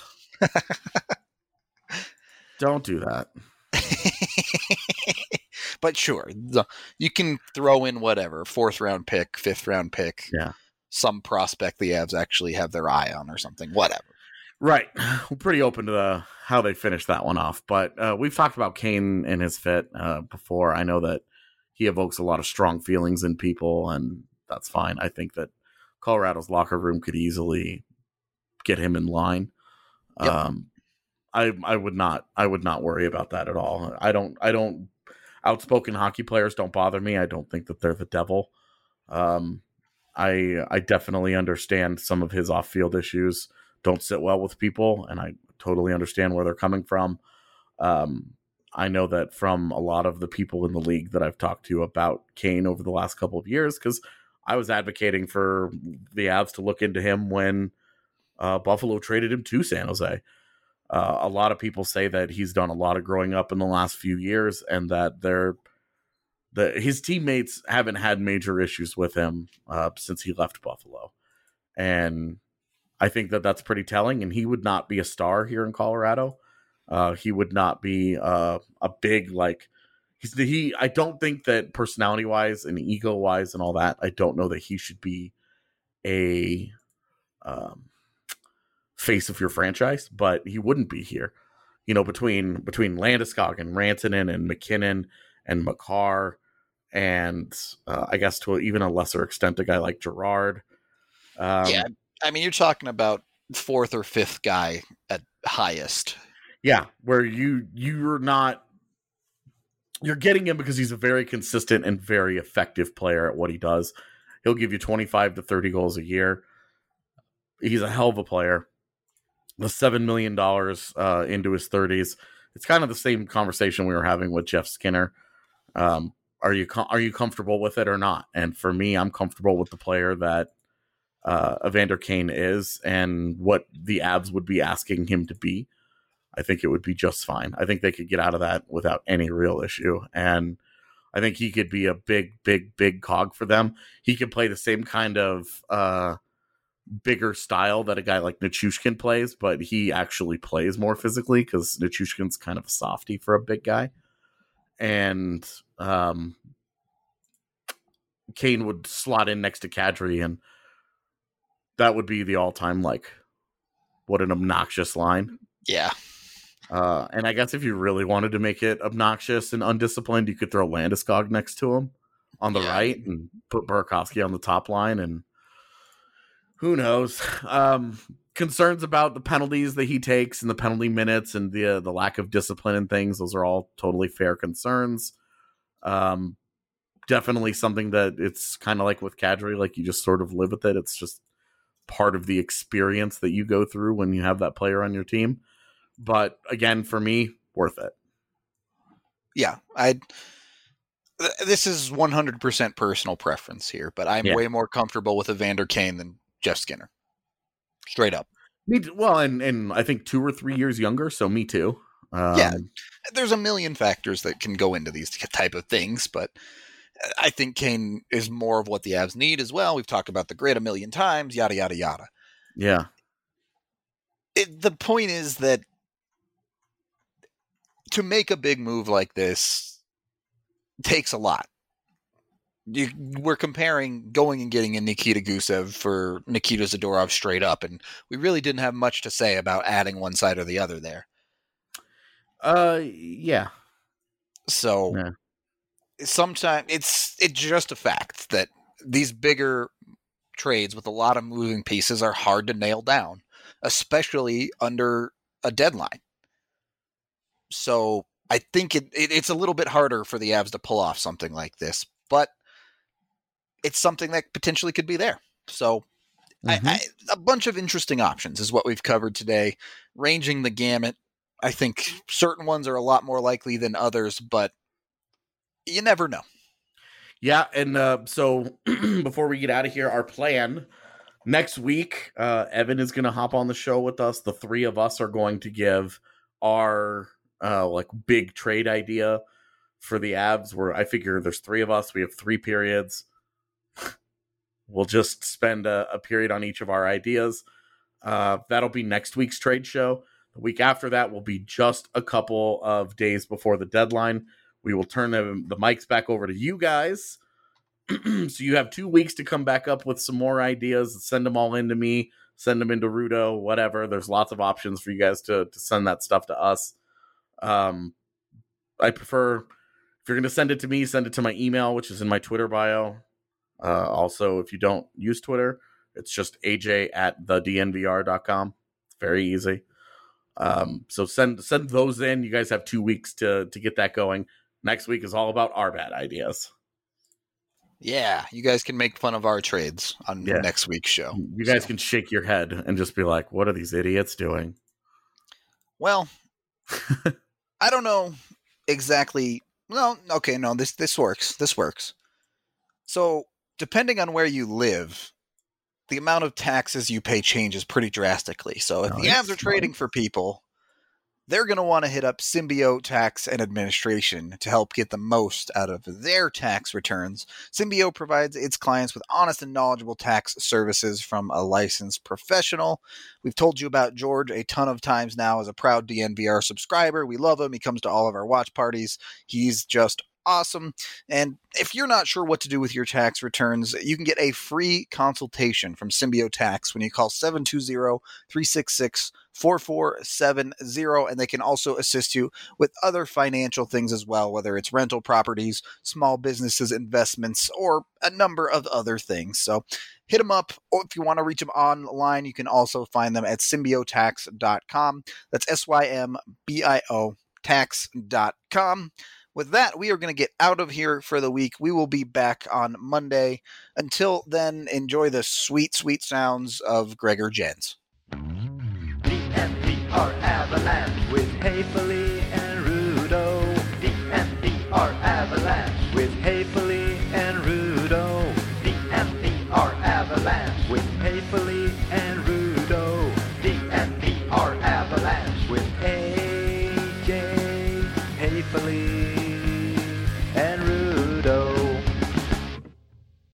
Don't do that. But sure, the, you can throw in whatever, fourth round pick, fifth round pick, Yeah. some prospect the Avs actually have their eye on or something, whatever. Right. We're pretty open to the, how they finish that one off. But uh, we've talked about Kane and his fit uh, before. I know that he evokes a lot of strong feelings in people, and that's fine. I think that Colorado's locker room could easily get him in line. Yep. Um, I I would not I would not worry about that at all. I don't I don't outspoken hockey players don't bother me. I don't think that they're the devil. Um, I I definitely understand some of his off-field issues don't sit well with people, and I totally understand where they're coming from. Um, I know that from a lot of the people in the league that I've talked to about Kane over the last couple of years, because I was advocating for the Avs to look into him when uh, Buffalo traded him to San Jose. Uh, a lot of people say that he's done a lot of growing up in the last few years, and that they're the his teammates haven't had major issues with him uh, since he left Buffalo. And I think that that's pretty telling, and he would not be a star here in Colorado. Uh, he would not be uh, a big, like, he's the, he, I don't think that personality wise and ego wise and all that, I don't know that he should be a um, face of your franchise, but he wouldn't be here. You know, between, between Landeskog and Rantanen and McKinnon and Makar, and uh, I guess to even a lesser extent, a guy like Gerard. Um, yeah. I mean, you're talking about fourth or fifth guy at highest. Yeah, where you you're not you're getting him because he's a very consistent and very effective player at what he does. He'll give you twenty-five to thirty goals a year. He's a hell of a player. The seven million dollars uh, into his thirties. It's kind of the same conversation we were having with Jeff Skinner. Um, are you com- are you comfortable with it or not? And for me, I'm comfortable with the player that Uh, Evander Kane is and what the Avs would be asking him to be. I think it would be just fine. I think they could get out of that without any real issue. And I think he could be a big, big, big cog for them. He could play the same kind of uh, bigger style that a guy like Nichushkin plays, but he actually plays more physically because Nichushkin's kind of a softy for a big guy. And um, Kane would slot in next to Kadri, and that would be the all-time, like, what an obnoxious line. Yeah. Uh, and I guess if you really wanted to make it obnoxious and undisciplined, you could throw Landeskog next to him on the yeah. right and put Burakovsky on the top line. And who knows? Um, concerns about the penalties that he takes and the penalty minutes and the uh, the lack of discipline and things. Those are all totally fair concerns. Um, definitely something that it's kind of like with Kadri, like you just sort of live with it. It's just part of the experience that you go through when you have that player on your team. But again, for me, worth it. Yeah, I. This is one hundred percent personal preference here, but I'm yeah. way more comfortable with Evander Kane than Jeff Skinner. Straight up. Me too. Well, and, and I think two or three years younger, so me too. Um, yeah, there's a million factors that can go into these type of things, but I think Kane is more of what the Avs need as well. We've talked about the grid a million times, yada, yada, yada. Yeah. It, the point is that to make a big move like this takes a lot. You, we're comparing going and getting a Nikita Gusev for Nikita Zadorov straight up, and we really didn't have much to say about adding one side or the other there. Uh, yeah. So yeah. sometimes it's it's just a fact that these bigger trades with a lot of moving pieces are hard to nail down, especially under a deadline. So I think it, it it's a little bit harder for the Avs to pull off something like this, but it's something that potentially could be there. So mm-hmm. I, I, a bunch of interesting options is what we've covered today, ranging the gamut. I think certain ones are a lot more likely than others, but you never know. Yeah, and uh, so before we get out of here, our plan next week, uh, Evan is going to hop on the show with us. The three of us are going to give our uh, like big trade idea for the Avs. Where I figure there's three of us, we have three periods. We'll just spend a, a period on each of our ideas. Uh, that'll be next week's trade show. The week after that will be just a couple of days before the deadline, We will turn the, the mics back over to you guys. So you have two weeks to come back up with some more ideas. Send them all into me. Send them into Rudo, whatever. There's lots of options for you guys to, to send that stuff to us. Um, I prefer, if you're going to send it to me, send it to my email, which is in my Twitter bio. Uh, also, if you don't use Twitter, it's just A J at the D N V R dot com. It's very easy. Um, so send send those in. You guys have two weeks to to get that going. Next week is all about our bad ideas. Yeah, you guys can make fun of our trades on Yeah. next week's show. You guys So. can shake your head and just be like, what are these idiots doing? Well, I don't know exactly. Well, okay, no, this this works. This works. So, depending on where you live, the amount of taxes you pay changes pretty drastically. So, if Oh, the ads are it's trading for people, they're going to want to hit up Symbio Tax and Administration to help get the most out of their tax returns. Symbio provides its clients with honest and knowledgeable tax services from a licensed professional. We've told you about George a ton of times now as a proud D N V R subscriber. We love him. He comes to all of our watch parties. He's just awesome. And if you're not sure what to do with your tax returns, you can get a free consultation from Symbio Tax when you call seven two zero, three six six, four four seven zero, and they can also assist you with other financial things as well, whether it's rental properties, small businesses, investments, or a number of other things. So hit them up, or if you want to reach them online, you can also find them at symbio tax dot com. That's S Y M B I O tax dot com. With that, we are going to get out of here for the week. We will be back on Monday. Until then, enjoy the sweet, sweet sounds of Gregor Jens. D N V R Avalanche with Haefele and Rudo. D N V R Avalanche with Haefele and Rudo. D N V R Avalanche with Haefele and Rudo.